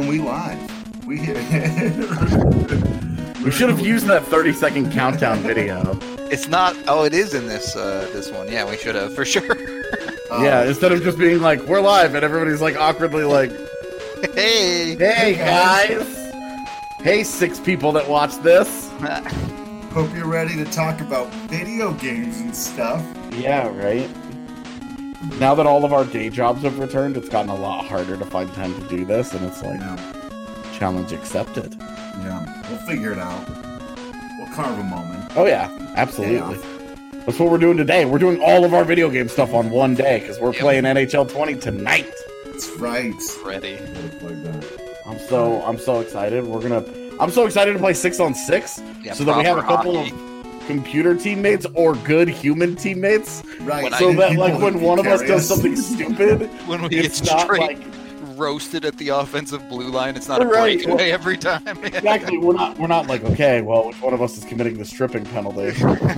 and we live. We should have used that 30-second countdown video. It's not. Oh, it is in this one. Yeah, we should have for sure. Yeah, instead of just being like, we're live, and everybody's like awkwardly like, hey guys. Hey, 6 people that watch this. Hope you're ready to talk about video games and stuff. Yeah, right. Now that all of our day jobs have returned, it's gotten a lot harder to find time to do this, and it's like, challenge accepted. Yeah, we'll figure it out. We'll carve a moment. Oh yeah, absolutely. That's what we're doing today. We're doing all of our video game stuff on one day, because we're playing NHL 20 tonight. That's right. Ready. I'm so excited. I'm so excited to play 6-on-6, so that we have a couple of computer teammates or good human teammates. Right. So that like when one of us does something stupid, when we get straight roasted at the offensive blue line, it's not a breakaway every time. Exactly. We're not like, okay, well, which one of us is committing the stripping penalty?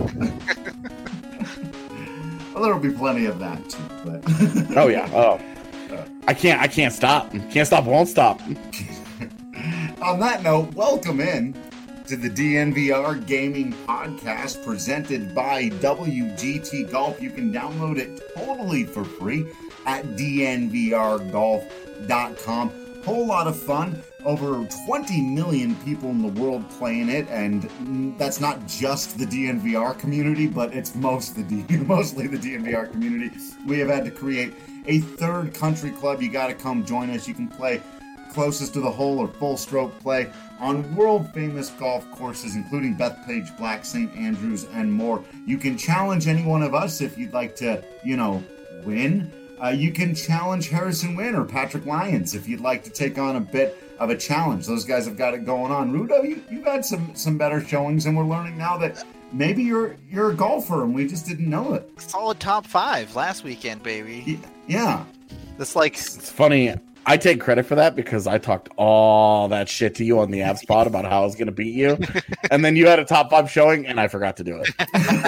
Well, there'll be plenty of that too. But oh yeah. Oh, I can't stop. Can't stop. Won't stop. On that note, welcome in to the DNVR Gaming Podcast presented by WGT Golf. You can download it totally for free at dnvrgolf.com. Whole lot of fun. Over 20 million people in the world playing it, and that's not just the DNVR community, but it's mostly the DNVR community. We have had to create a third country club. You got to come join us. You can play closest to the hole or full stroke play on world famous golf courses, including Bethpage, Black, St. Andrews, and more. You can challenge any one of us if you'd like to, win. You can challenge Harrison Wynn or Patrick Lyons if you'd like to take on a bit of a challenge. Those guys have got it going on. Rudo, you've had some better showings, and we're learning now that maybe you're a golfer and we just didn't know it. Solid top 5 last weekend, baby. Yeah. It's funny. I take credit for that because I talked all that shit to you on the Avs pod about how I was going to beat you. And then you had a top 5 showing and I forgot to do it.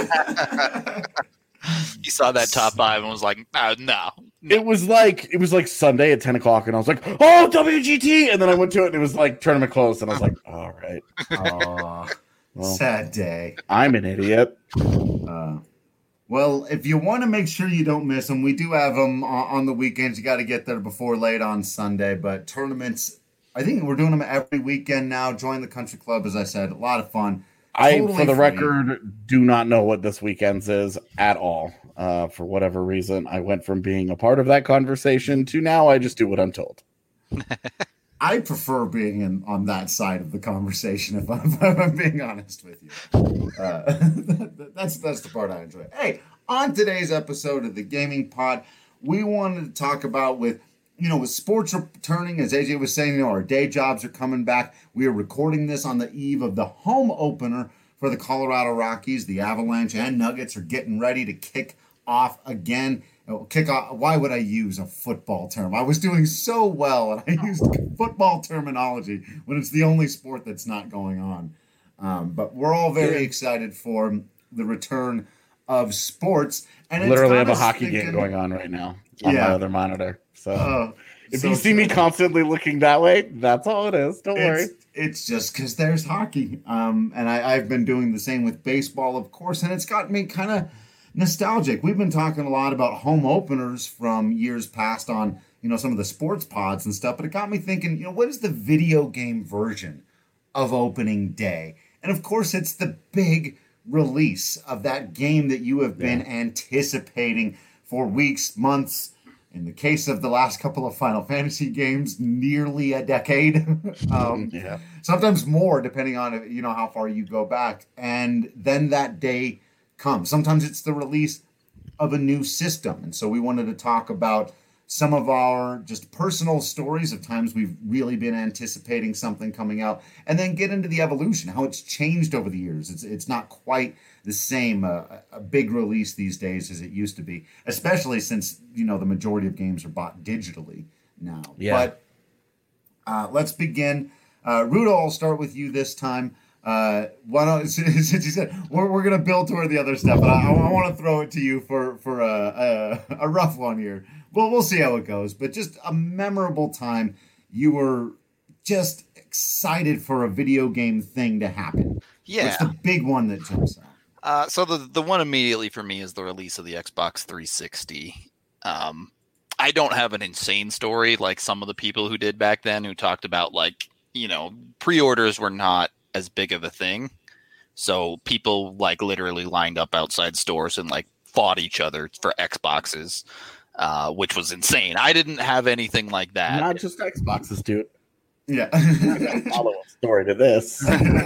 You saw that top 5 and was like, no. It was like Sunday at 10 o'clock and I was like, oh, WGT. And then I went to it and it was like tournament closed. And I was like, all right. Well, sad day. I'm an idiot. Well, if you want to make sure you don't miss them, we do have them on the weekends. You got to get there before late on Sunday. But tournaments, I think we're doing them every weekend now. Join the country club, as I said. A lot of fun. For the record, do not know what this weekend's is at all. For whatever reason, I went from being a part of that conversation to now I just do what I'm told. I prefer being on that side of the conversation, if I'm being honest with you. That's the part I enjoy. Hey, on today's episode of the Gaming Pod, we wanted to talk about with sports returning, as AJ was saying, our day jobs are coming back. We are recording this on the eve of the home opener for the Colorado Rockies. The Avalanche and Nuggets are getting ready to kick off again. Why would I use a football term? I was doing so well, and I used football terminology when it's the only sport that's not going on. But we're all very excited for the return of sports. And literally have a hockey game going on right now on my other monitor. So if you see me constantly looking that way, that's all it is. Don't worry. It's just because there's hockey. And I've been doing the same with baseball, of course, and it's got me kind of nostalgic. We've been talking a lot about home openers from years past on, some of the sports pods and stuff, but it got me thinking, what is the video game version of opening day? And of course, it's the big release of that game that you have been anticipating for weeks, months. In the case of the last couple of Final Fantasy games, nearly a decade. Sometimes more, depending on how far you go back. And then that day comes. Sometimes it's the release of a new system. And so we wanted to talk about some of our just personal stories of times we've really been anticipating something coming out, and then get into the evolution, how it's changed over the years. It's not quite the same, a big release these days as it used to be, especially since, the majority of games are bought digitally now. Yeah. But let's begin. Rudo, I'll start with you this time. Why don't, since you said we're going to build toward the other stuff, but I want to throw it to you for a rough one here. Well, we'll see how it goes, but just a memorable time you were just excited for a video game thing to happen. Yeah. What's the big one that jumps out? So the one immediately for me is the release of the Xbox 360. I don't have an insane story like some of the people who did back then who talked about like, pre-orders were not as big of a thing. So people like literally lined up outside stores and like fought each other for Xboxes, which was insane. I didn't have anything like that. Not just Xboxes, dude. Yeah. Follow-up story to this.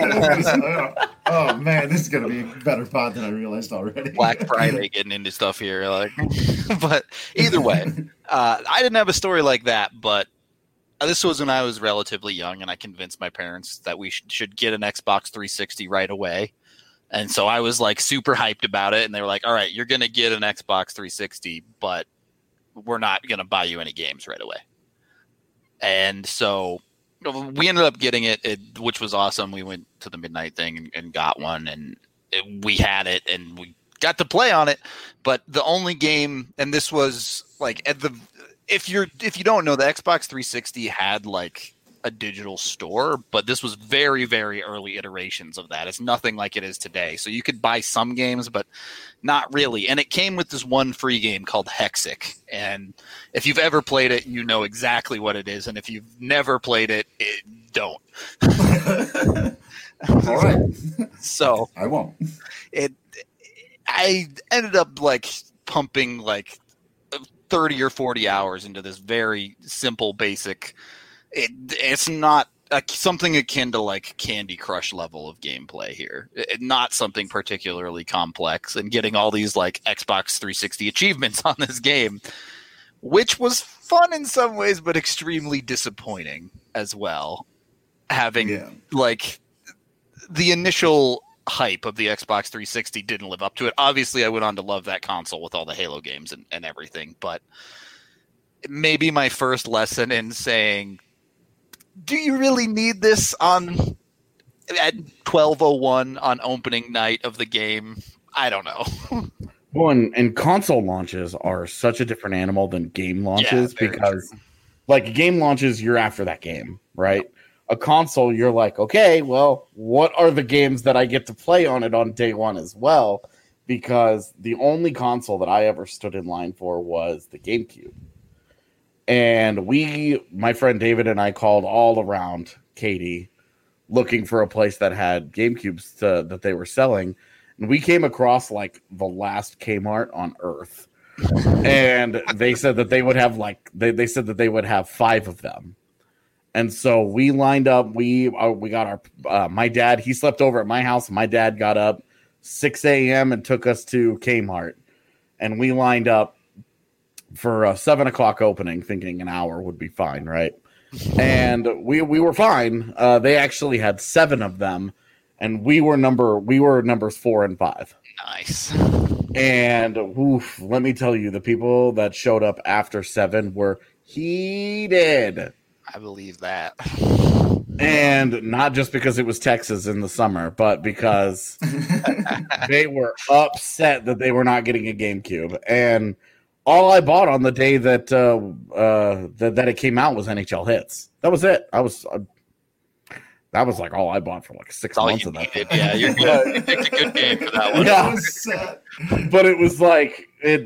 Oh man, this is gonna be a better pod than I realized already. Black Friday getting into stuff here, but either way, I didn't have a story like that. But this was when I was relatively young, and I convinced my parents that we should get an Xbox 360 right away. And so I was like super hyped about it, and they were like, "All right, you're gonna get an Xbox 360, but we're not gonna buy you any games right away." And so we ended up getting it, which was awesome. We went to the midnight thing and got one, and we had it, and we got to play on it. But the only game, and this was like if you don't know, the Xbox 360 had like a digital store, but this was very, very early iterations of that. It's nothing like it is today. So you could buy some games, but not really. And it came with this one free game called Hexic. And if you've ever played it, you know exactly what it is. And if you've never played it, don't. All right. So I won't. I ended up like pumping like 30 or 40 hours into this very simple, basic. It's not something akin to like Candy Crush level of gameplay here. Not something particularly complex, and getting all these like Xbox 360 achievements on this game, which was fun in some ways, but extremely disappointing as well. Having like the initial hype of the Xbox 360 didn't live up to it. Obviously, I went on to love that console with all the Halo games and everything, but maybe my first lesson in saying, do you really need this at 12:01 on opening night of the game? I don't know. Well, and console launches are such a different animal than game launches because, true. Like, game launches, you're after that game, right? A console, you're like, okay, well, what are the games that I get to play on it on day one as well? Because the only console that I ever stood in line for was the GameCube. And my friend David and I called all around Katy looking for a place that had GameCubes that they were selling. And we came across like the last Kmart on Earth. And they said that they would have they said that they would have 5 of them. And so we lined up. We got our my dad. He slept over at my house. My dad got up 6 a.m. and took us to Kmart. And we lined up for a 7 o'clock opening, thinking an hour would be fine, right? And we were fine. They actually had 7 of them, and we were numbers 4 and 5. Nice. And let me tell you, the people that showed up after 7 were heated. I believe that. And not just because it was Texas in the summer, but because they were upset that they were not getting a GameCube. And all I bought on the day that that it came out was NHL Hits. That was it. That was like all I bought for like 6 months of that. Yeah, you're good. You picked a good game for that one. Yeah, but it was like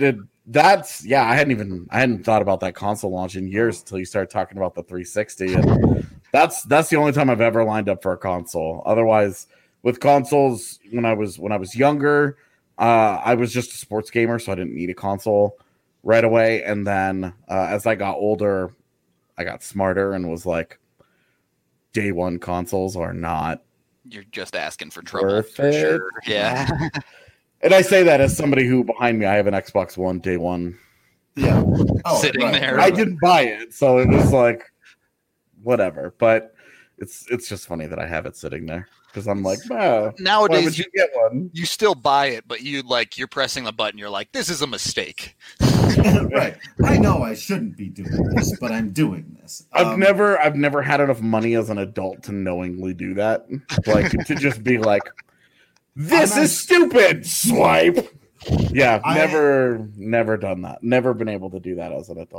I hadn't thought about that console launch in years until you started talking about the 360, and that's the only time I've ever lined up for a console. Otherwise, with consoles, when I was younger, I was just a sports gamer, so I didn't need a console right away. And then as I got older, I got smarter and was like, day one consoles are not. You're just asking for trouble for sure. Yeah. And I say that as somebody who behind me, I have an Xbox One day one. Yeah. Sitting there. I didn't buy it, so it was like whatever. But it's just funny that I have it sitting there. Because I'm like, nowadays why would you get one? You still buy it, but you're pressing the button. You're like, this is a mistake. Right. I know I shouldn't be doing this, but I'm doing this. I've never had enough money as an adult to knowingly do that. Like to just be like, this is stupid. Swipe. Yeah, never done that. Never been able to do that as an adult.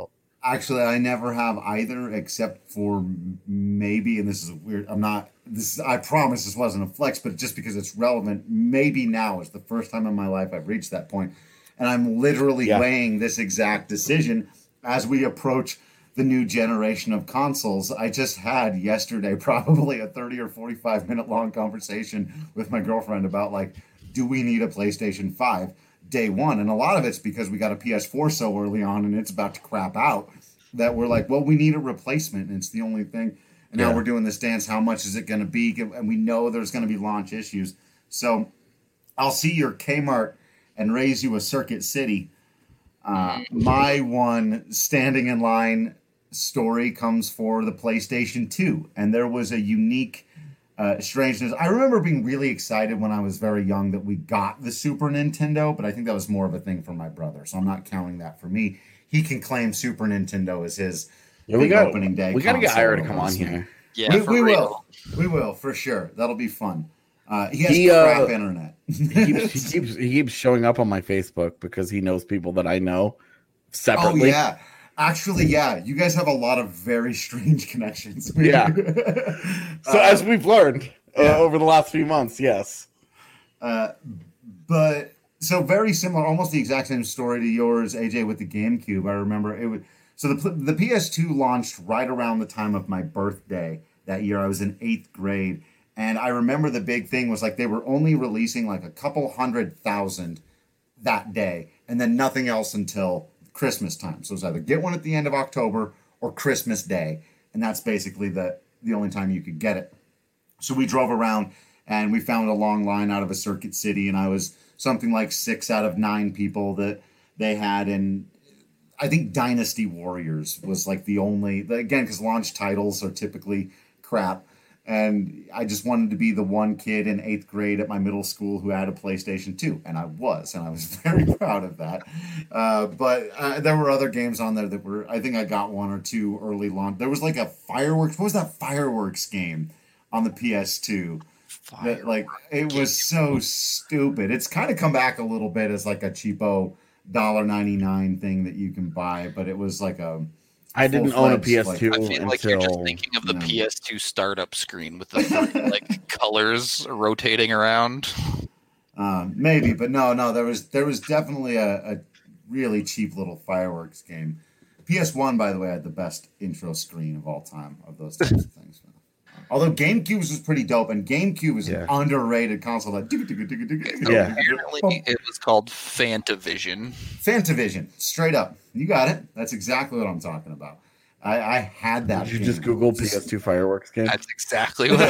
Actually, I never have either, except for maybe, and this is weird. I promise this wasn't a flex, but just because it's relevant, maybe now is the first time in my life I've reached that point, and I'm literally weighing this exact decision as we approach the new generation of consoles. I just had yesterday probably a 30 or 45 minute long conversation with my girlfriend about like, do we need a PlayStation 5 day one? And a lot of it's because we got a PS4 so early on and it's about to crap out that we're like, well, we need a replacement. And it's the only thing. And now we're doing this dance. How much is it going to be? And we know there's going to be launch issues. So I'll see your Kmart and raise you a Circuit City. My one standing in line story comes for the PlayStation 2. And there was a unique strangeness. I remember being really excited when I was very young that we got the Super Nintendo, but I think that was more of a thing for my brother. So I'm not counting that for me. He can claim Super Nintendo as his opening day. We got to get Ira to come on here. Yeah, we will. We will, for sure. That'll be fun. He has crap internet. he keeps showing up on my Facebook because he knows people that I know separately. Oh, yeah. Actually, yeah. You guys have a lot of very strange connections. Yeah. So as we've learned over the last few months, yes. But so very similar, almost the exact same story to yours, AJ, with the GameCube. I remember it was so the PS2 launched right around the time of my birthday that year. I was in 8th grade. And I remember the big thing was like they were only releasing like a couple 100,000 that day and then nothing else until Christmas time. So it was either get one at the end of October or Christmas Day. And that's basically the only time you could get it. So we drove around and we found a long line out of a Circuit City. And I was something like 6 out of 9 people that they had. And I think Dynasty Warriors was like the only, again, because launch titles are typically crap. And I just wanted to be the one kid in 8th grade at my middle school who had a PlayStation 2. And I was very proud of that. But there were other games on there that were, I think I got 1 or 2 early launch. There was like a fireworks. What was that fireworks game on the PS2? That, like, it was so stupid. It's kind of come back a little bit as like a cheapo $1.99 thing that you can buy. But it was like a... I didn't own a PS2 I feel like you're just thinking of the PS2 startup screen with the like colors rotating around. Maybe, but no. There was definitely a really cheap little fireworks game. PS1, by the way, had the best intro screen of all time of those types of things. Although GameCube was pretty dope, and GameCube was an underrated console. Like, apparently, it was called Fantavision. Fantavision, straight up. You got it. That's exactly what I'm talking about. I had that. Did you just Google PS2 fireworks game? That's exactly what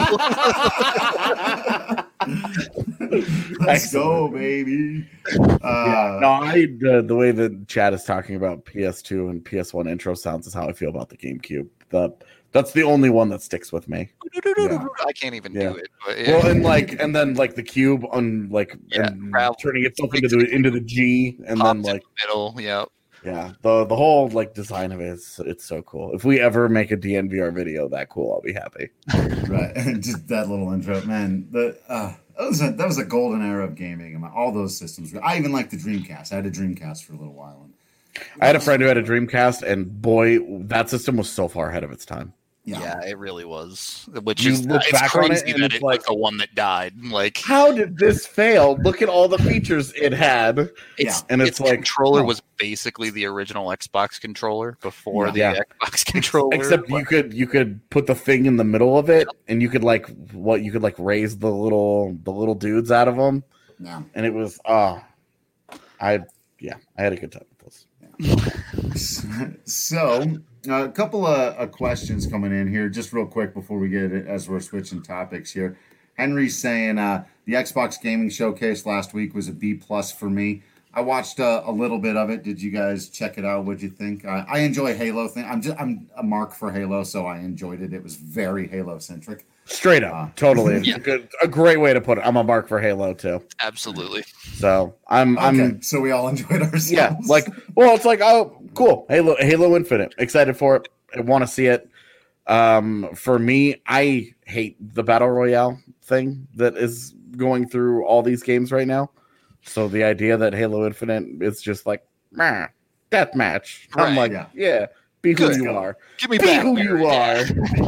I Googled. Let's go, baby. The way that Chad is talking about PS2 and PS1 intro sounds is how I feel about the GameCube. That's the only one that sticks with me. Yeah. I can't even do it. But Well, and then the cube on and turning itself into the G, and then the middle. Yeah, the whole design of it it's so cool. If we ever make a DNVR video that cool, I'll be happy. Right, just that little intro, man. That was a golden era of gaming. All those systems. I even liked the Dreamcast. I had a Dreamcast for a little while. I had a friend who had a Dreamcast, and boy, that system was so far ahead of its time. Yeah, it really was. Which is it's crazy that it's like the one that died. Like, how did this fail? Look at all the features it had. Its controller was basically the original Xbox controller before the Xbox controller. Except you could put the thing in the middle of it, and you could raise the little dudes out of them. Yeah, and it was I had a good time with this. So, a couple of questions coming in here, just real quick before we get it, as we're switching topics here. Henry's saying the Xbox Gaming Showcase last week was a B+ for me. I watched a little bit of it. Did you guys check it out? What'd you think? I enjoy Halo thing. I'm a mark for Halo, so I enjoyed it. It was very Halo centric. Straight up, totally. Yeah. A great way to put it. I'm a mark for Halo too. Absolutely. So I'm. So we all enjoyed ourselves. Yeah, it's like, oh, cool. Halo Infinite. Excited for it. I want to see it. For me, I hate the battle royale thing that is going through all these games right now. So the idea that Halo Infinite is just like, meh, deathmatch. I'm Right. like, yeah, be who Good. you are. Give me Be back. who you are.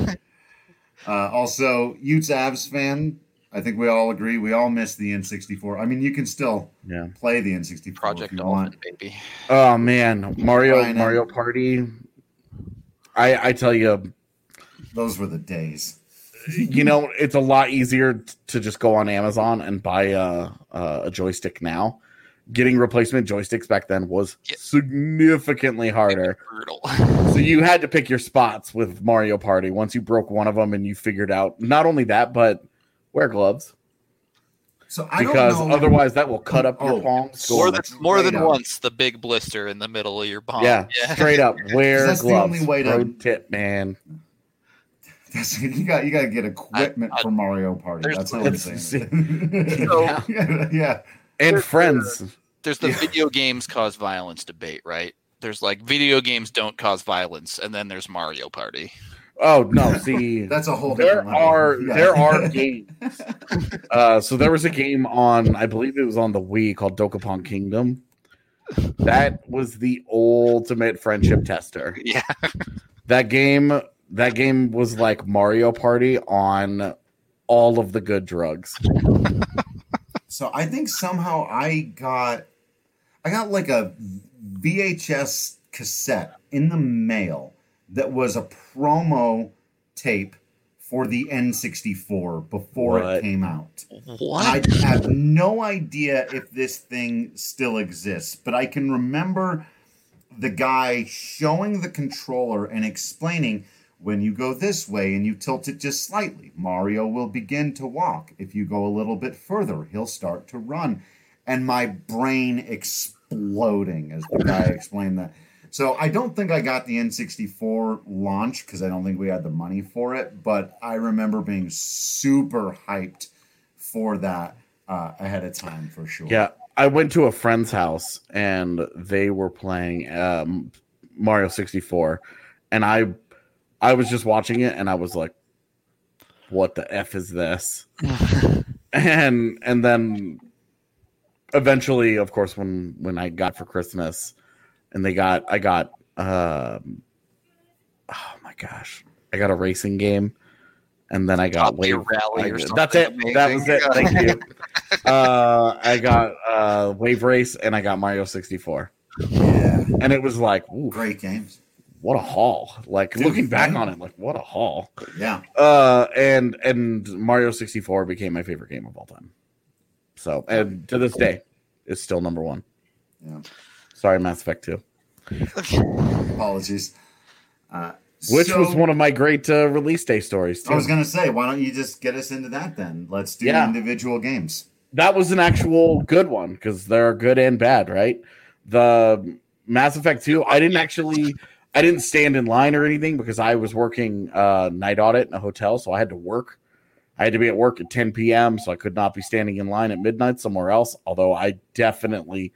Also, Utes Avs fan. I think we all agree. We all miss the N64. I mean, you can still play the N64 if Project you Dolphin, want. baby. Oh man, Mario Party. I tell you, those were the days. You know, it's a lot easier to just go on Amazon and buy a joystick now. Getting replacement joysticks back then was significantly harder. Brutal. So you had to pick your spots with Mario Party. Once you broke one of them and you figured out not only that, but wear gloves. So I because don't know. Otherwise that will cut up your palms. More than once, the big blister in the middle of your palm. Yeah, straight up. Wear that's gloves. The only way Pro tip, man. You got to get equipment for Mario Party. That's how I'm saying. Yeah. And friends. There's the video games cause violence debate, right? There's like video games don't cause violence, and then there's Mario Party. Oh no! See, that's a whole. There are games. So there was a game on, I believe it was on the Wii called Dokapon Kingdom. That was the ultimate friendship tester. Yeah, that game was like Mario Party on all of the good drugs. So I think somehow I got like a VHS cassette in the mail that was a promo tape for the N64 before it came out. What? I have no idea if this thing still exists, but I can remember the guy showing the controller and explaining, when you go this way and you tilt it just slightly, Mario will begin to walk. If you go a little bit further, he'll start to run. And my brain exploding as the guy explained that. So I don't think I got the N64 launch because I don't think we had the money for it. But I remember being super hyped for that ahead of time for sure. Yeah, I went to a friend's house and they were playing Mario 64. And I was just watching it and I was like, what the F is this? and then eventually, of course, when I got for Christmas and I got oh my gosh, I got a racing game and then I got Wave Rally or something. That's it. Amazing. That was it. Thank you. I got Wave Race and I got Mario 64. Yeah. And it was like, ooh, great games. What a haul. Like, dude, looking back on it, like, what a haul. Yeah. And Mario 64 became my favorite game of all time. So, and to this day, it's still number one. Yeah. Sorry, Mass Effect 2. Apologies. Which was one of my great release day stories, too. I was going to say, why don't you just get us into that then? Let's do individual games. That was an actual good one, because there are good and bad, right? The Mass Effect 2, I didn't stand in line or anything because I was working night audit in a hotel, so I had to work. I had to be at work at 10 p.m., so I could not be standing in line at midnight somewhere else, although I definitely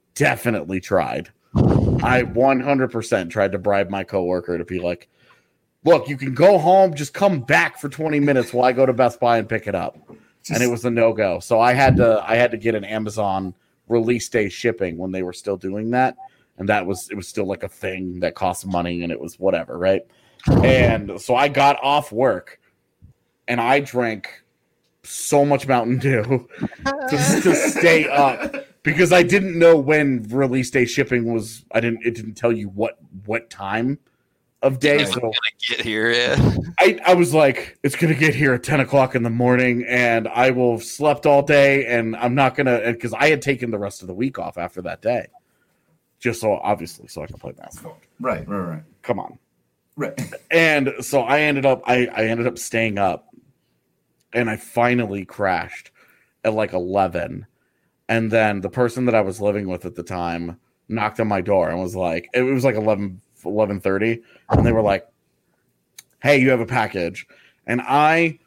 tried. I 100% tried to bribe my coworker to be like, look, you can go home, just come back for 20 minutes while I go to Best Buy and pick it up. And it was a no-go. So I had to get an Amazon release day shipping when they were still doing that. And it was still like a thing that cost money and it was whatever, right? And so I got off work and I drank so much Mountain Dew to stay up because I didn't know when release day shipping was. It didn't tell you what time of day. It's gonna get here, yeah. I was like, it's gonna get here at 10 o'clock in the morning and I will have slept all day and I'm not gonna, because I had taken the rest of the week off after that day. Just so I can play basketball. Right. Come on. Right. And so I ended up staying up and I finally crashed at like 11. And then the person that I was living with at the time knocked on my door and was like, it was like 11:30. And they were like, hey, you have a package. And I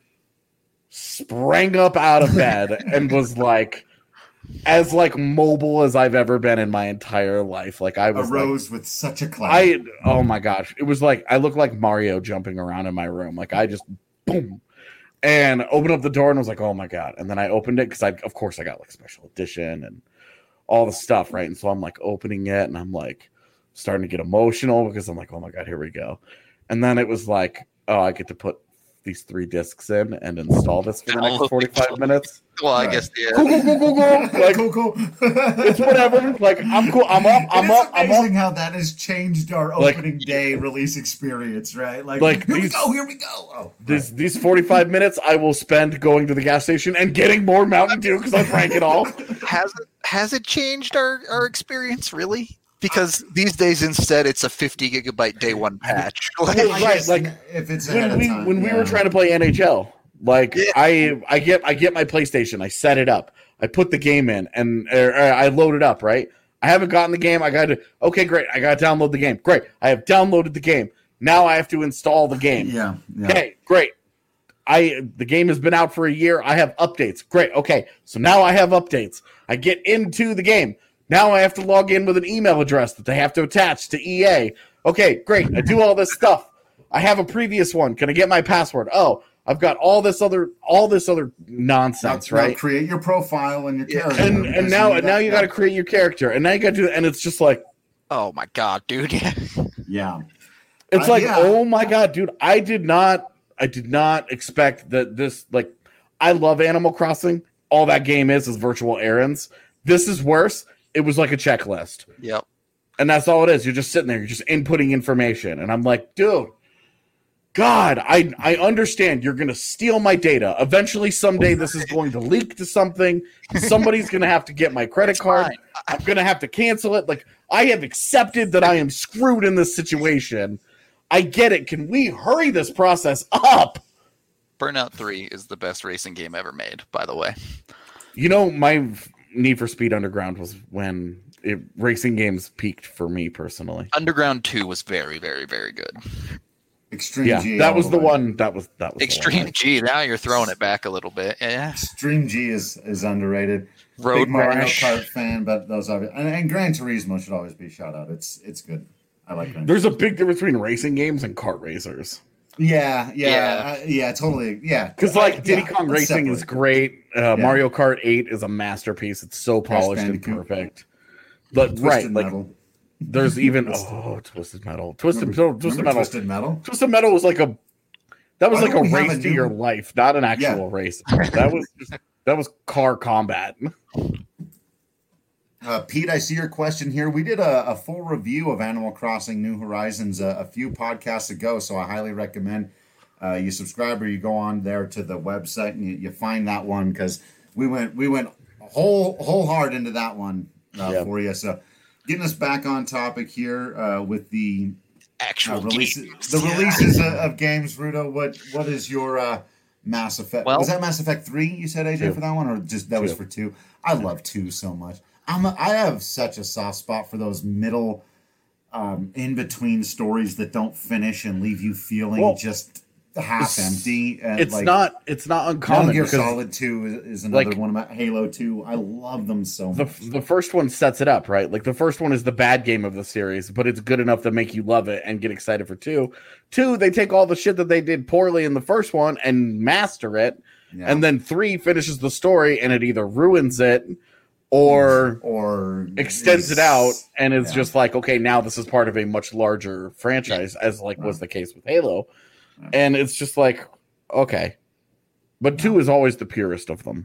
sprang up out of bed and was like, as like mobile as I've ever been in my entire life. Like I was arose with such a cloud. Oh my gosh. It was like I looked like Mario jumping around in my room. Like I just boom and opened up the door and was like, oh my God. And then I opened it because of course I got like special edition and all the stuff, right? And so I'm like opening it and I'm like starting to get emotional because I'm like, oh my God, here we go. And then it was like, oh, I get to put these 3 discs in and install this for the next 45 minutes. Well, I guess, yeah. Cool. Like, cool. It's whatever. Like, I'm cool. I'm up. It's amazing how that has changed our opening day release experience, right? Like here we go. Oh, these 45 minutes I will spend going to the gas station and getting more Mountain Dew because I drank it all. Has it changed our experience, really? Because these days, instead, it's a 50 gigabyte day one patch. Right, like if it's when we were trying to play NHL, like I get my PlayStation, I set it up, I put the game in, and I load it up. Right, I haven't gotten the game. I got to great. I got to download the game. Great, I have downloaded the game. Now I have to install the game. Yeah. Okay, great. The game has been out for a year. I have updates. Great. Okay, so now I have updates. I get into the game. Now I have to log in with an email address that they have to attach to EA. Okay, great. I do all this stuff. I have a previous one. Can I get my password? Oh, I've got all this other nonsense, right? Now create your profile and your character. And now you got to create your character. And now you got to do it. And it's just like, oh my God, dude. Yeah. It's like, oh my God, dude. I did not expect that this, like, I love Animal Crossing. All that game is virtual errands. This is worse. It was like a checklist. Yep. And that's all it is. You're just sitting there. You're just inputting information. And I'm like, dude, God, I understand you're going to steal my data. Eventually, someday, this is going to leak to something. Somebody's going to have to get my credit card. I'm going to have to cancel it. Like, I have accepted that I am screwed in this situation. I get it. Can we hurry this process up? Burnout 3 is the best racing game ever made, by the way. You know, my Need for Speed Underground was when racing games peaked for me personally. Underground 2 was very, very, very good. Extreme G. That was the one. That was Extreme G. Now you're throwing it back a little bit. Yeah. Extreme G is underrated. Road Big Mario Rash. Kart fan, but those are and Gran Turismo should always be a shout out. It's good. I like Gran There's a big difference between racing games and kart racers. Yeah, totally. Yeah. Because like Diddy Kong Racing is great. Mario Kart 8 is a masterpiece. It's so polished and perfect. But Twisted Metal. There's even Twisted Metal. Twisted Metal. Twisted Metal. Twisted Metal was like a race to your life, not an actual race. That was car combat. Pete, I see your question here. We did a full review of Animal Crossing New Horizons a few podcasts ago, so I highly recommend you subscribe or you go on there to the website and you find that one because we went whole hard into that one for you. So getting us back on topic here with the actual releases, games. Releases of games. Rudo, what is your Mass Effect? Well, was that Mass Effect 3 you said, AJ, 2. for that one, or just that 2. Was for 2? I love 2 so much. I have such a soft spot for those middle, in between stories that don't finish and leave you feeling just half empty. It's not uncommon. Metal Gear Solid 2 is another one of my Halo 2. I love them so much. The first one sets it up, right? Like the first one is the bad game of the series, but it's good enough to make you love it and get excited for 2. 2, they take all the shit that they did poorly in the first one and master it, and then 3 finishes the story and it either ruins it or extends it out and it's just like, okay, now this is part of a much larger franchise, as was the case with Halo. And it's just like, okay. But 2 is always the purest of them.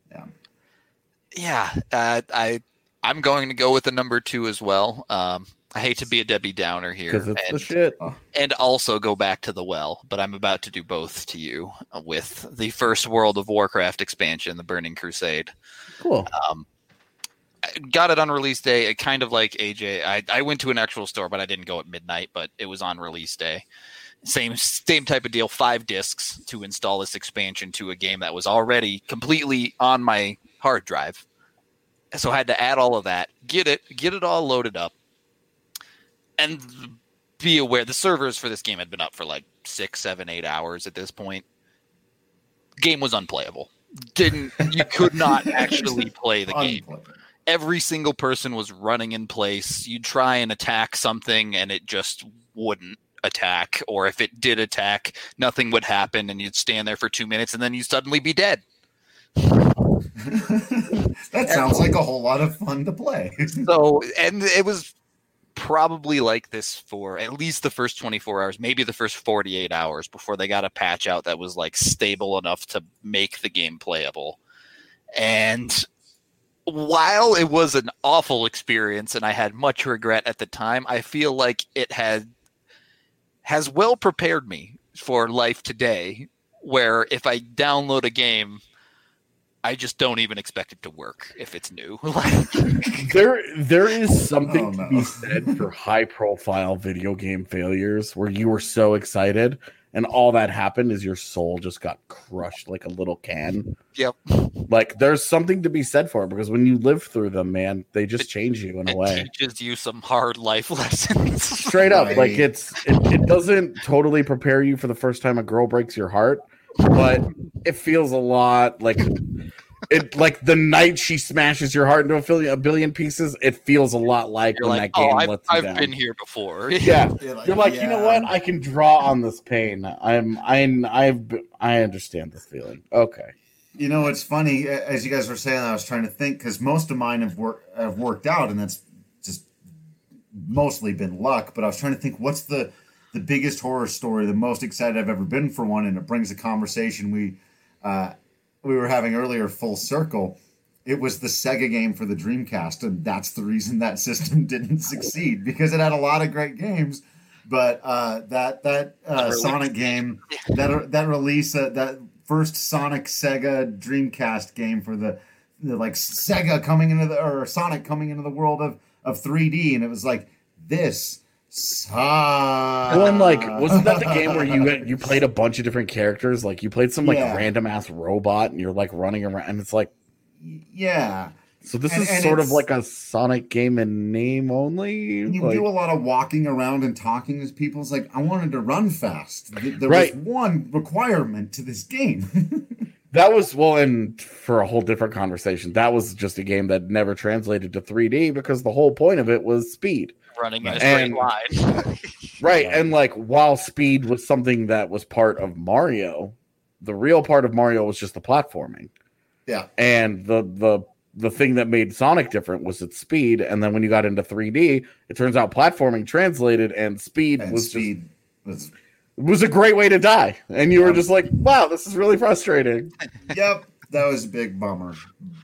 I'm going to go with the number 2 as well. I hate to be a Debbie Downer here. Because it's the shit. And also go back to the well, but I'm about to do both to you with the first World of Warcraft expansion, the Burning Crusade. Cool. Got it on release day. Kind of like AJ. I went to an actual store, but I didn't go at midnight, but it was on release day. Same type of deal, 5 discs to install this expansion to a game that was already completely on my hard drive. So I had to add all of that, get it all loaded up, and be aware the servers for this game had been up for like 6, 7, 8 hours at this point. Game was unplayable. You could not actually play the game. Every single person was running in place. You'd try and attack something and it just wouldn't attack, or if it did attack, nothing would happen and you'd stand there for 2 minutes and then you'd suddenly be dead. That sounds like a whole lot of fun to play. So, and it was probably like this for at least the first 24 hours, maybe the first 48 hours before they got a patch out that was like stable enough to make the game playable. And while it was an awful experience and I had much regret at the time, I feel like it has well prepared me for life today, where if I download a game, I just don't even expect it to work if it's new. There is something to be said for high profile video game failures where you were so excited and all that happened is your soul just got crushed like a little can. Yep. Like there's something to be said for it because when you live through them, man, they just change you in a way. It teaches you some hard life lessons. Straight up. Right. Like it doesn't totally prepare you for the first time a girl breaks your heart, but it feels a lot like it, like the night she smashes your heart into a billion pieces. It feels a lot like you're when like, that game lets you down. I've been here before. Yeah, you're like, you know what? I can draw on this pain. I understand this feeling. Okay. You know, it's funny as you guys were saying. I was trying to think because most of mine have worked out, and that's just mostly been luck. But I was trying to think, what's the biggest horror story, the most excited I've ever been for one, and it brings a conversation we were having earlier full circle. It was the Sega game for the Dreamcast, and that's the reason that system didn't succeed, because it had a lot of great games, but that Sonic game, that release, that first Sonic Sega Dreamcast game for the like Sega coming into or Sonic coming into the world of 3D, and it was like this. Well, and like, wasn't that the game where you played a bunch of different characters? Like, you played some like random ass robot, and you're like running around, and it's like, yeah. So this is sort of like a Sonic game in name only. You do a lot of walking around and talking to people. It's like I wanted to run fast. There was one requirement to this game. That was and for a whole different conversation. That was just a game that never translated to 3D because the whole point of it was speed. Running in a straight line. Right. And like while speed was something that was part of Mario, the real part of Mario was just the platforming. Yeah. And the thing that made Sonic different was its speed. And then when you got into 3D, it turns out platforming translated and speed was a great way to die. And you were just like, wow, this is really frustrating. Yep. That was a big bummer.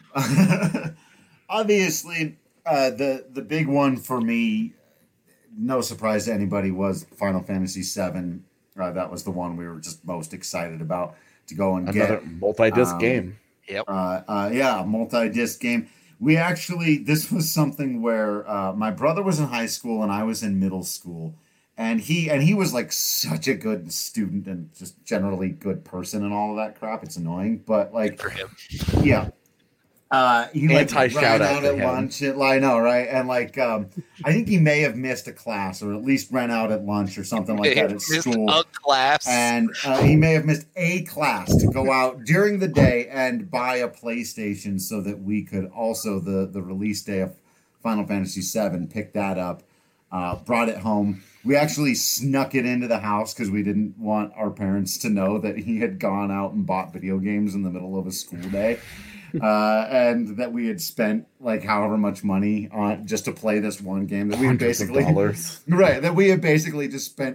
Obviously, the big one for me, no surprise to anybody, was Final Fantasy VII. That was the one we were just most excited about to go and get. Another multi-disc game. Yep. Multi-disc game. This was something where my brother was in high school and I was in middle school. And he was like such a good student and just generally good person and all of that crap. It's annoying, but like, for him. Yeah. He like ran out at lunch. I know, right? And like, I think he may have missed a class, or at least ran out at lunch or something like that at school. A class, and he may have missed a class to go out during the day and buy a PlayStation so that we could also the release day of Final Fantasy VII pick that up, brought it home. We actually snuck it into the house because we didn't want our parents to know that he had gone out and bought video games in the middle of a school day. And that we had spent like however much money on just to play this one game that we had basically that we had basically just spent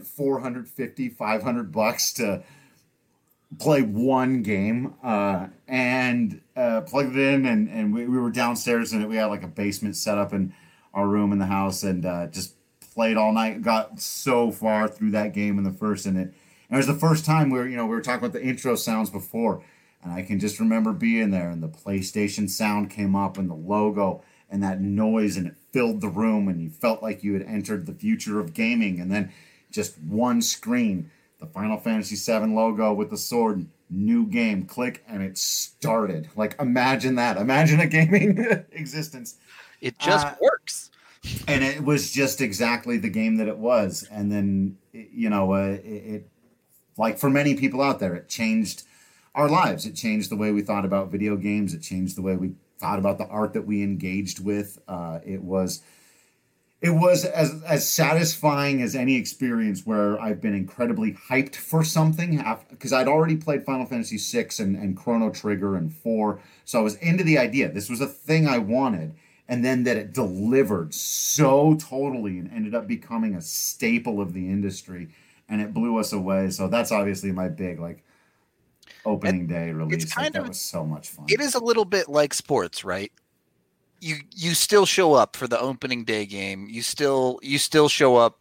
$450-$500 to play one game and plugged it in and we were downstairs and we had like a basement set up in our room in the house and just played all night. Got so far through that game in the first and it was the first time we were talking about the intro sounds before. And I can just remember being there and the PlayStation sound came up and the logo and that noise and it filled the room and you felt like you had entered the future of gaming. And then just one screen, the Final Fantasy VII logo with the sword, new game, click, and it started. Like, imagine that. Imagine a gaming existence. It just works. And it was just exactly the game that it was. And then, it like for many people out there, it changed our lives. It changed the way we thought about video games. It changed the way we thought about the art that we engaged with. It was as satisfying as any experience where I've been incredibly hyped for something because I'd already played Final Fantasy VI and Chrono Trigger and 4. So I was into the idea. This was a thing I wanted. and then that it delivered so totally and ended up becoming a staple of the industry, and it blew us away. So that's obviously my big opening day release. That was so much fun. It is a little bit like sports, right? You still show up for the opening day game. You still show up.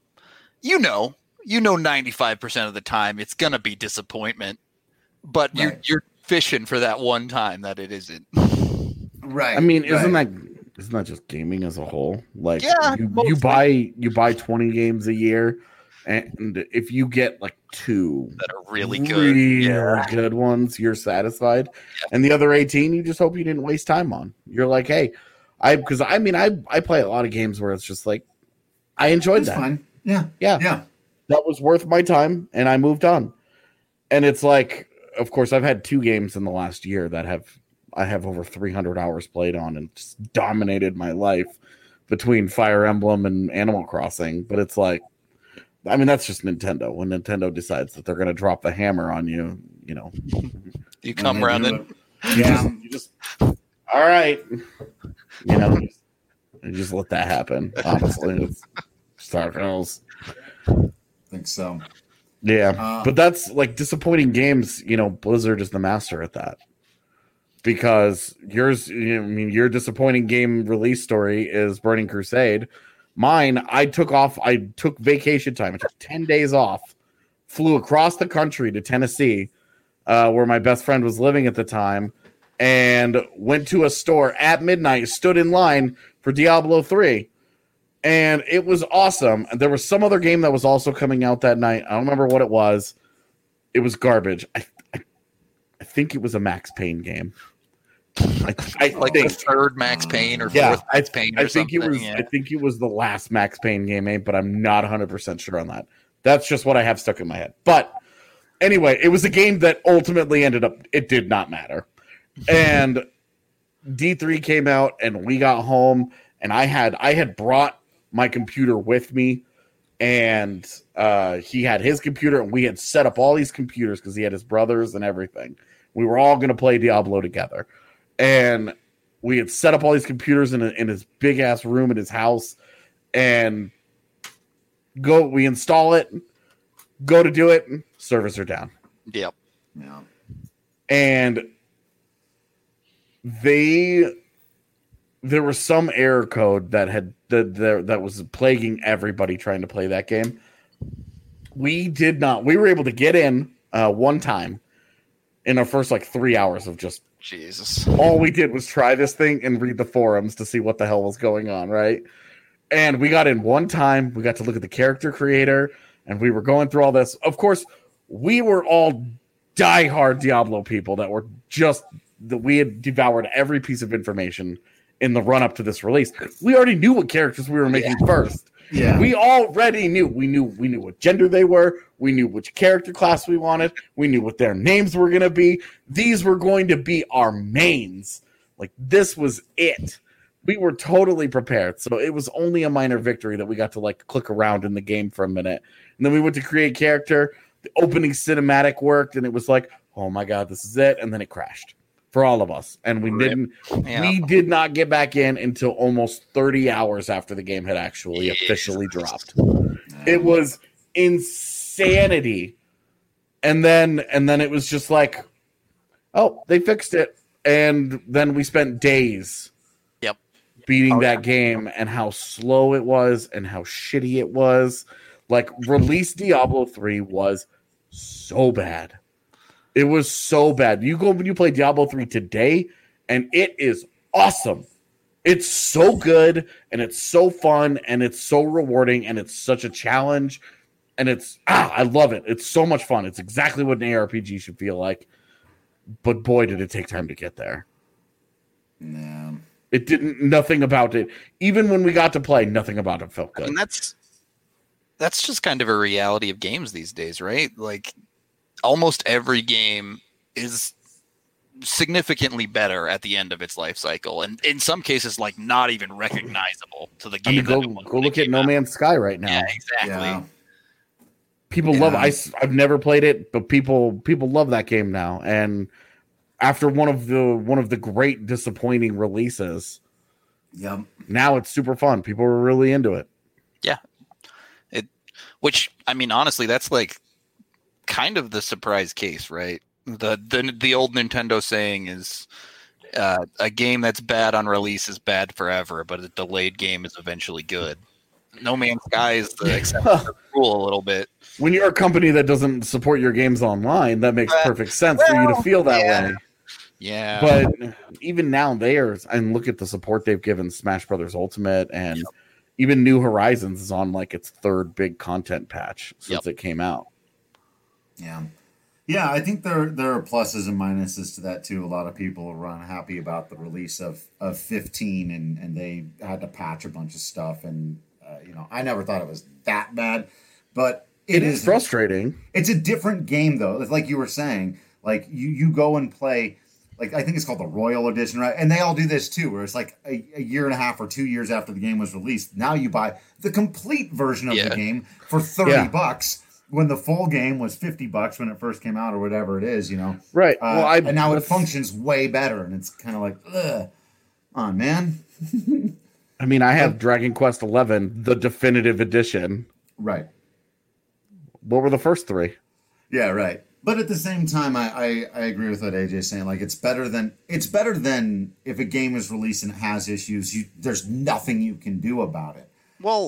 95% of the time it's gonna be disappointment, but right. you're fishing for that one time that it isn't. Right. I mean, isn't that just gaming as a whole? Like, you buy 20 games a year, and if you get like 2 that are really good ones, you're satisfied. Yeah. And the other 18, you just hope you didn't waste time on. You're like, hey, I play a lot of games where it's just like, I enjoyed that. Fun. Yeah. That was worth my time, and I moved on. And it's like, of course, I've had 2 games in the last year that I have over 300 hours played on and just dominated my life between Fire Emblem and Animal Crossing. But it's like, I mean, that's just Nintendo. When Nintendo decides that they're going to drop the hammer on you, you come around and you just all right, you just let that happen. Honestly, it's Star Wars. I think so. Yeah, but that's like disappointing games. Blizzard is the master at that. Because your disappointing game release story is Burning Crusade. Mine, I took vacation time. I took 10 days off, flew across the country to Tennessee, where my best friend was living at the time, and went to a store at midnight, stood in line for Diablo 3. And it was awesome. And there was some other game that was also coming out that night. I don't remember what it was. It was garbage. I think it was a Max Payne game. I think the third Max Payne or fourth Max Payne or something. I think it was the last Max Payne game, but I'm not 100% sure on that. That's just what I have stuck in my head. But anyway, it was a game that ultimately ended up, it did not matter. And D3 came out, and we got home, and I had brought my computer with me, and he had his computer, and we had set up all these computers because he had his brothers and everything. We were all going to play Diablo together. And we had set up all these computers in his big ass room in his house, and we install it, go to do it, servers are down. Yep. Yeah. And there was some error code that was plaguing everybody trying to play that game. We were able to get in one time in our first 3 hours of just Jesus. All we did was try this thing and read the forums to see what the hell was going on, right? And we got in one time. We got to look at the character creator, and we were going through all this. Of course, we were all diehard Diablo people we had devoured every piece of information in the run-up to this release. We already knew what characters we were making first. Yeah. We already knew. We knew what gender they were. We knew which character class we wanted. We knew what their names were going to be. These were going to be our mains. This was it. We were totally prepared. So it was only a minor victory that we got to click around in the game for a minute. And then we went to create character. The opening cinematic worked, and it was like, oh my God, this is it. And then it crashed for all of us. And we did not get back in until almost 30 hours after the game had actually officially dropped. It was insanity. And then it was just like, oh, they fixed it. And then we spent days beating that game, and how slow it was and how shitty it was. Release Diablo 3 was so bad. It was so bad. You play Diablo 3 today, and it is awesome. It's so good, and it's so fun, and it's so rewarding, and it's such a challenge. And I love it. It's so much fun. It's exactly what an ARPG should feel like. But boy, did it take time to get there. Yeah. It didn't, nothing about it. Even when we got to play, nothing about it felt good. And that's just kind of a reality of games these days, right? Almost every game is significantly better at the end of its life cycle, and in some cases, not even recognizable to the game. Go look at No Man's Sky right now. Yeah, exactly. Yeah. People love it. I've never played it, but people love that game now. And after one of the great disappointing releases, Yep. Now it's super fun. People are really into it. Yeah. Which, I mean, honestly, that's like kind of the surprise case, right? The old Nintendo saying is a game that's bad on release is bad forever, but a delayed game is eventually good. No Man's Sky is the exception to the rule a little bit. When you're a company that doesn't support your games online, that makes perfect sense for you to feel that way. Yeah. But even now, and look at the support they've given Smash Brothers Ultimate, and even New Horizons is on like its third big content patch since it came out. Yeah. Yeah, I think there are pluses and minuses to that too. A lot of people were unhappy about the release of 15, and they had to patch a bunch of stuff. And I never thought it was that bad, but it is frustrating. It's a different game though. It's like you were saying, like you go and play. Like, I think it's called the Royal Edition, right? And they all do this too, where it's like a year and a half or 2 years after the game was released. Now you buy the complete version of the game for $30 when the full game was $50 when it first came out or whatever it is, Right. And now it functions way better, and it's kind of like, ugh, on man. I mean, I have Dragon Quest XI, the definitive edition. Right. What were the first three? Yeah, right. But at the same time, I agree with what AJ's saying. Like, it's better than if a game is released and it has issues. There's nothing you can do about it. Well,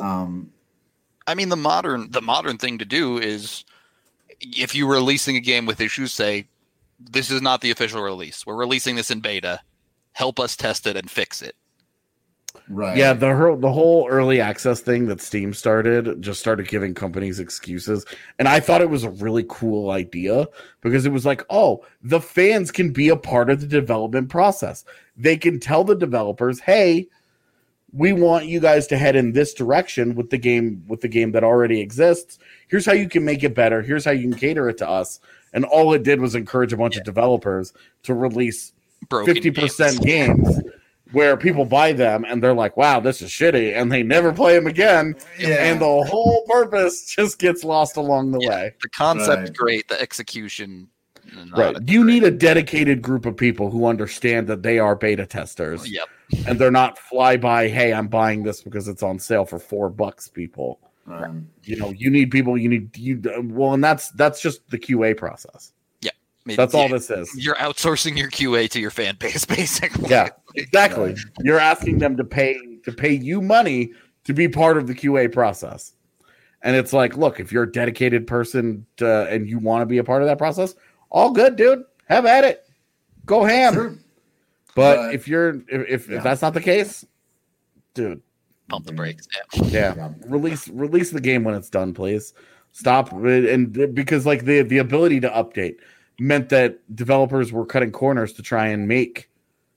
I mean, the modern thing to do is, if you're releasing a game with issues, say, this is not the official release. We're releasing this in beta. Help us test it and fix it. Right. Yeah, the whole early access thing that Steam started giving companies excuses. And I thought it was a really cool idea because it was like, oh, the fans can be a part of the development process. They can tell the developers, hey, we want you guys to head in this direction with the game that already exists. Here's how you can make it better. Here's how you can cater it to us. And all it did was encourage a bunch of developers to release 50% games where people buy them and they're like, wow, this is shitty, and they never play them again. Yeah. And the whole purpose just gets lost along the way. The concept's great, the execution. Right. You need a dedicated group of people who understand that they are beta testers. Yep. And they're not fly by, hey, I'm buying this because it's on sale for $4, people. You need people, and that's just the QA process. That's all this is. You're outsourcing your QA to your fan base, basically. Yeah, exactly. You're asking them to pay you money to be part of the QA process. And it's like, look, if you're a dedicated person and you want to be a part of that process, all good, dude. Have at it. Go ham. Sure. But if that's not the case, dude, pump the brakes. Yeah. Release the game when it's done, please. Stop, and because like the ability to update meant that developers were cutting corners to try and make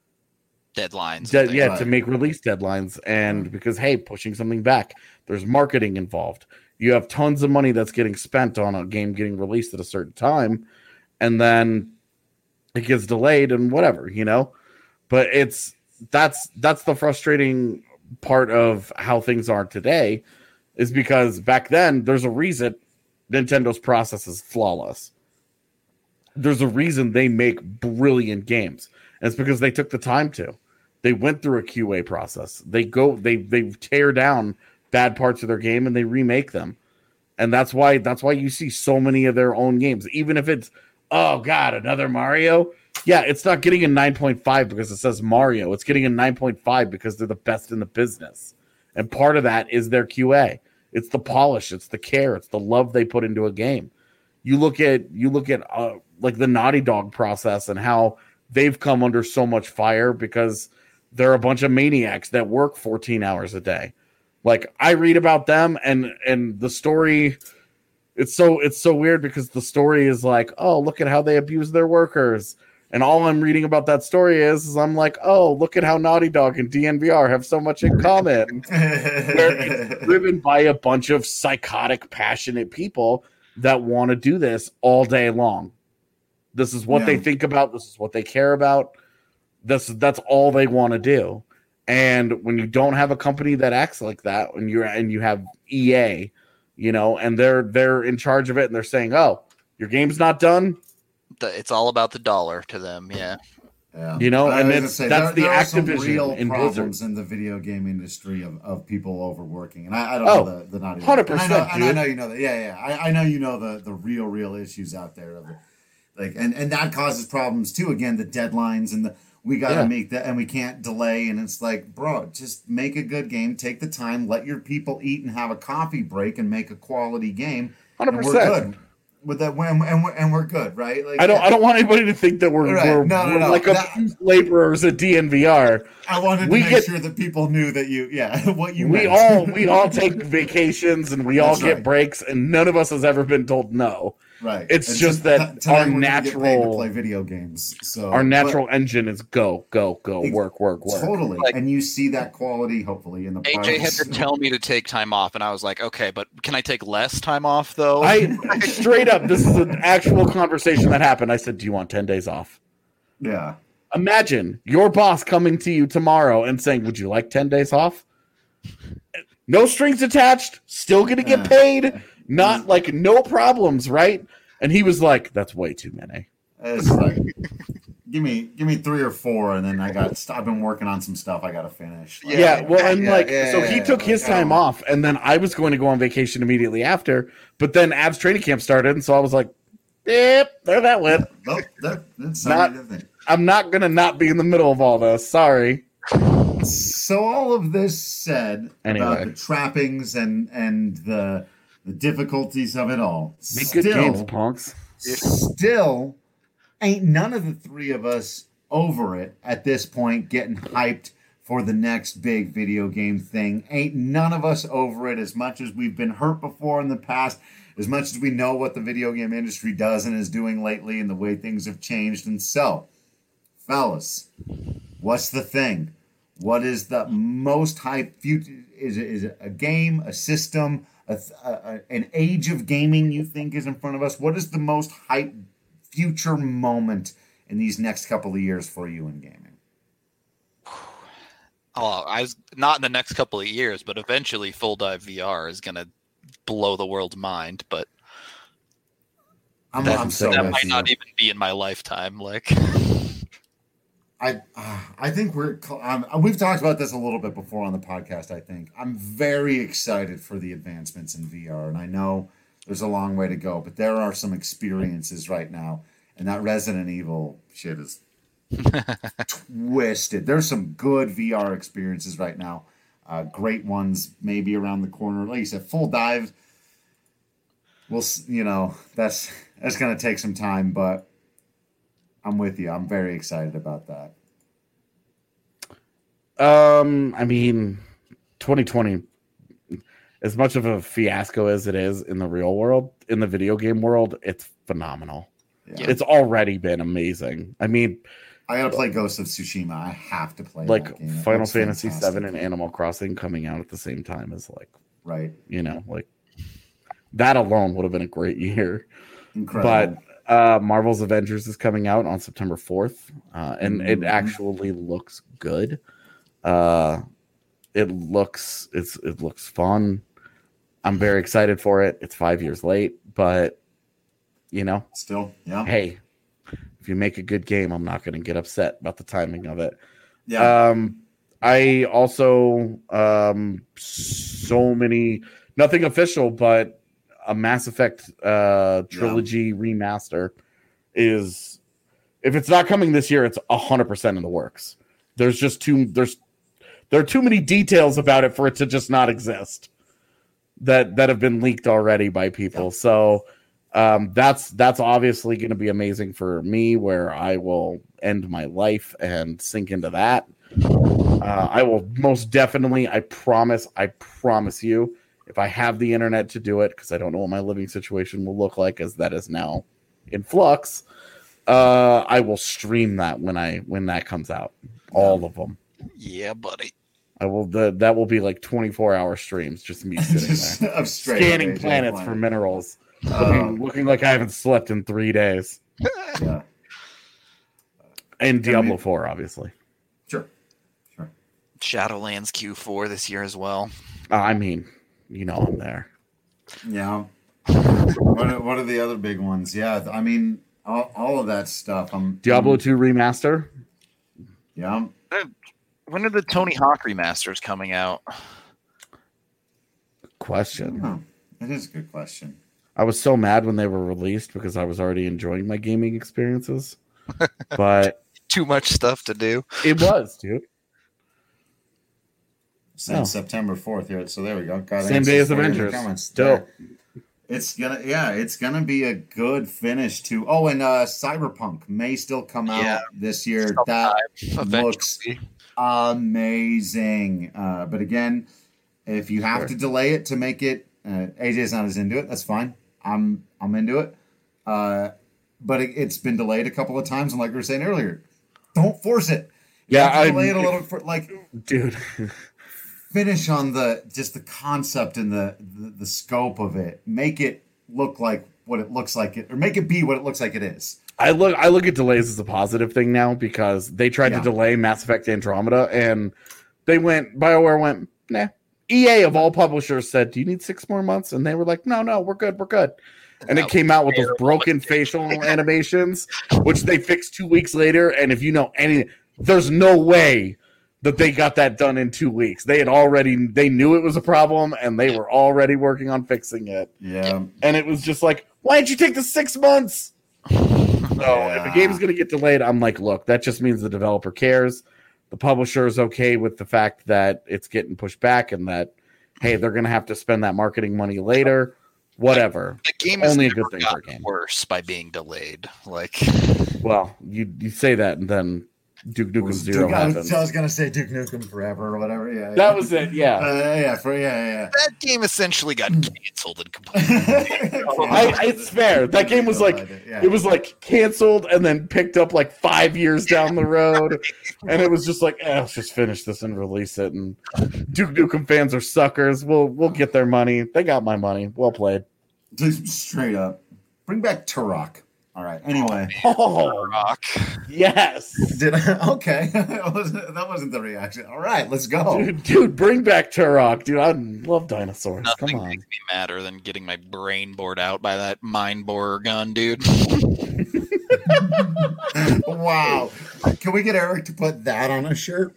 deadlines. To make release deadlines. And because, hey, pushing something back, there's marketing involved. You have tons of money that's getting spent on a game getting released at a certain time, and then it gets delayed and whatever, But that's the frustrating part of how things are today, is because back then there's a reason Nintendo's process is flawless. There's a reason they make brilliant games. And it's because they took the time to. They went through a QA process. They tear down bad parts of their game and they remake them. And that's why you see so many of their own games. Even if it's, oh God, another Mario. Yeah, it's not getting a 9.5 because it says Mario. It's getting a 9.5 because they're the best in the business. And part of that is their QA. It's the polish, it's the care, it's the love they put into a game. You look at like the Naughty Dog process and how they've come under so much fire because they're a bunch of maniacs that work 14 hours a day. Like, I read about them and the story, it's so weird because the story is like, oh, look at how they abuse their workers. And all I'm reading about that story is I'm like, oh, look at how Naughty Dog and DNVR have so much in common. Where it's driven by a bunch of psychotic, passionate people that want to do this all day long. This is what they think about. This is what they care about. That's all they want to do. And when you don't have a company that acts like that, and you have EA, and they're in charge of it, and they're saying, oh, your game's not done. It's all about the dollar to them. Yeah. Yeah. You know, and that's the there are some Activision real in problems Blizzard. in the video game industry of people overworking, and I don't know the not even 100%, and I know you know that. Yeah. I know you know the real issues out there of it, like and that causes problems too. Again, the deadlines and the we got to Yeah, make that, and we can't delay. And it's like, bro, just make a good game, take the time, let your people eat and have a coffee break, and make a quality game, and we're 100%. good with that. And we're good, right? Like, I don't want anybody to think that we're Right. we're, No, we're like That, abused laborers at DNVR. I wanted to We make get sure that people knew that what you we meant. all take vacations and we all That's get right. breaks, and none of us has ever been told no. Right. It's And just that tonight our we're gonna get paid to natural play video games. So our natural engine is go Ex- work. totally, Like- and you see that quality hopefully in the AJ had to tell me to take time off, and I was like, okay, but can I take less time off though? I straight up, this is an actual conversation that happened. I said, "Do you want 10 days off?" Yeah. Imagine your boss coming to you tomorrow and saying, "Would you like 10 days off?" No strings attached, still gonna get paid, not like no problems, right? And he was like, "That's way too many." It's like give me 3 or 4, and then I've been working on some stuff I got to finish. Like, Yeah, well, and yeah, he took his time off, and then I was going to go on vacation immediately after. But then Abs training camp started, and so I was like, "Yep, there that went." Oh, that's Not- different. I'm not gonna not be in the middle of all this. Sorry. So all of this said Anyway. about the trappings and the difficulties of it all, Make good games, punks. still ain't none of the three of us over it at this point, getting hyped for the next big video game thing. Ain't none of us over it, as much as we've been hurt before in the past, as much as we know what the video game industry does and is doing lately and the way things have changed. And so, fellas, what's the thing? What is the most hype future? Is it a game, a system, an age of gaming you think is in front of us? What is the most hype future moment in these next couple of years for you in gaming? Oh, I was not in the next couple of years, but eventually Full Dive VR is gonna blow the world's mind. But I'm so that with might you. not even be in my lifetime. Like, I think we've talked about this a little bit before on the podcast. I think I'm very excited for the advancements in VR, and I know there's a long way to go, but there are some experiences right now, and that Resident Evil shit is twisted. There's some good VR experiences right now, great ones maybe around the corner. Like you said, Full Dive. That's going to take some time, but I'm with you. I'm very excited about that. I mean, 2020, as much of a fiasco as it is in the real world, in the video game world, it's phenomenal. Yeah. It's already been amazing. I mean, I gotta play Ghost of Tsushima. I have to play like that game. It Final looks Fantasy fantastic. VII and Animal Crossing coming out at the same time is like, Right. like that alone would have been a great year. Incredible. But Marvel's Avengers is coming out on September 4th, and it actually looks good. It looks fun. I'm very excited for it. It's 5 years late, but Still, yeah. hey, if you make a good game, I'm not going to get upset about the timing of it. Yeah. I also so many, nothing official, but a Mass Effect trilogy remaster is, if it's not coming this year, it's 100% in the works. There are too many details about it for it to just not exist that have been leaked already by people. Yeah. So that's obviously going to be amazing for me, where I will end my life and sink into that. I will most definitely, I promise you, if I have the internet to do it, because I don't know what my living situation will look like, as that is now in flux, I will stream that when that comes out. All of them. Yeah, buddy. I will. That will be like 24-hour streams, just me sitting there scanning planets for minerals, looking like I haven't slept in 3 days. Yeah. And Diablo 4, obviously. Sure. Shadowlands Q4 this year as well. I mean, I'm there. Yeah. What are the other big ones? Yeah, I mean, all of that stuff. Diablo 2 remaster. Yeah. When are the Tony Hawk remasters coming out? Question. Oh, that is a good question. I was so mad when they were released because I was already enjoying my gaming experiences. But too much stuff to do. It was, dude. Since September 4th here. So there we go. Got same day as Avengers. Dope. It's gonna be a good finish to. Oh, and Cyberpunk may still come out this year. That looks amazing. But again, if you have to delay it to make it, AJ's not as into it. That's fine. I'm into it. But it's been delayed a couple of times, and like we were saying earlier, don't force it. Delay it a little for dude. Finish on the concept and the scope of it. Make it look like what it looks like it, or make it be what it looks like it is. I look at delays as a positive thing now because they tried to delay Mass Effect Andromeda and BioWare went, nah. EA of all publishers said, do you need 6 more months? And they were like, no, we're good. And it came out with those broken facial animations, which they fixed 2 weeks later. And if you know there's no way that they got that done in 2 weeks. They knew it was a problem and they were already working on fixing it. Yeah. And it was just like, why didn't you take the 6 months? So if a game is going to get delayed, I'm like, look, that just means the developer cares. The publisher is okay with the fact that it's getting pushed back and that, hey, they're going to have to spend that marketing money later. Whatever. The game is only a good thing for a game. Worse by being delayed. Well, you say that and then Duke Nukem 0 happens. I was gonna say Duke Nukem Forever or whatever. Yeah, that was it. Yeah, That game essentially got canceled and completely. It's fair. That game was it was like canceled and then picked up like 5 years down the road, and it was just like, let's just finish this and release it. And Duke Nukem fans are suckers. We'll get their money. They got my money. Well played. Just straight up, bring back Turok. All right. Anyway. Rock. Yes. Okay. that wasn't the reaction. All right, let's go. Dude, bring back Turok. Dude, I love dinosaurs. Nothing Come on. makes me madder than getting my brain bored out by that mind borer gun, dude. Wow. Can we get Eric to put that on a shirt?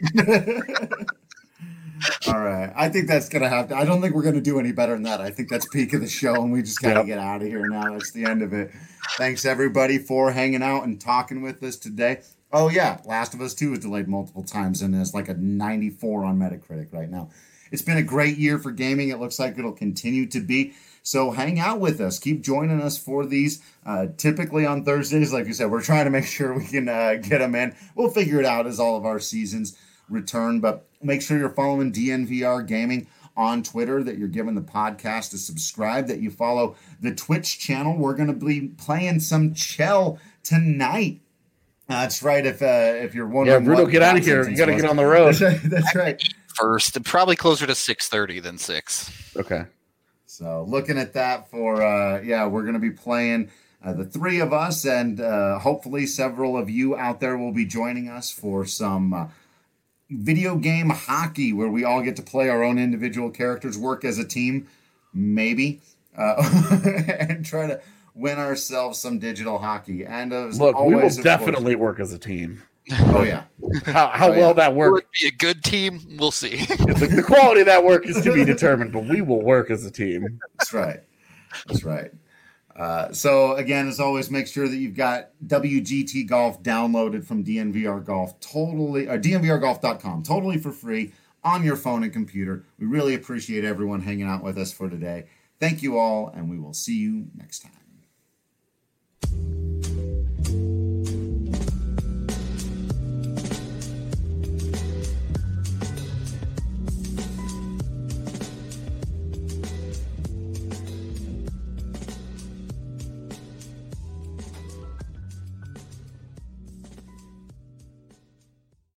All right. I think that's going to have to. I don't think we're going to do any better than that. I think that's peak of the show, and we just got to get out of here now. That's the end of it. Thanks, everybody, for hanging out and talking with us today. Oh, yeah. Last of Us 2 was delayed multiple times, and it's like a 94 on Metacritic right now. It's been a great year for gaming. It looks like it'll continue to be. So hang out with us. Keep joining us for these. Typically on Thursdays, like you said, we're trying to make sure we can get them in. We'll figure it out as all of our seasons return, but make sure you're following DNVR Gaming on Twitter, that you're giving the podcast a subscribe, that you follow the Twitch channel. We're going to be playing some Chell tonight. That's right. If you're wondering, Bruno, get out of here. You got to get on the road. That's right. First, probably closer to 6:30 than 6. Okay. So looking at that for we're going to be playing. The three of us, and hopefully several of you out there will be joining us for some video game hockey, where we all get to play our own individual characters, work as a team, maybe, and try to win ourselves some digital hockey. And look, we will definitely work as a team. Oh yeah, how well that works? Will it be a good team? We'll see. The quality of that work is to be determined, but we will work as a team. That's right. That's right. So again, as always, make sure that you've got WGT Golf downloaded from DNVR Golf, DNVRGolf.com, totally for free on your phone and computer. We really appreciate everyone hanging out with us for today. Thank you all, and we will see you next time.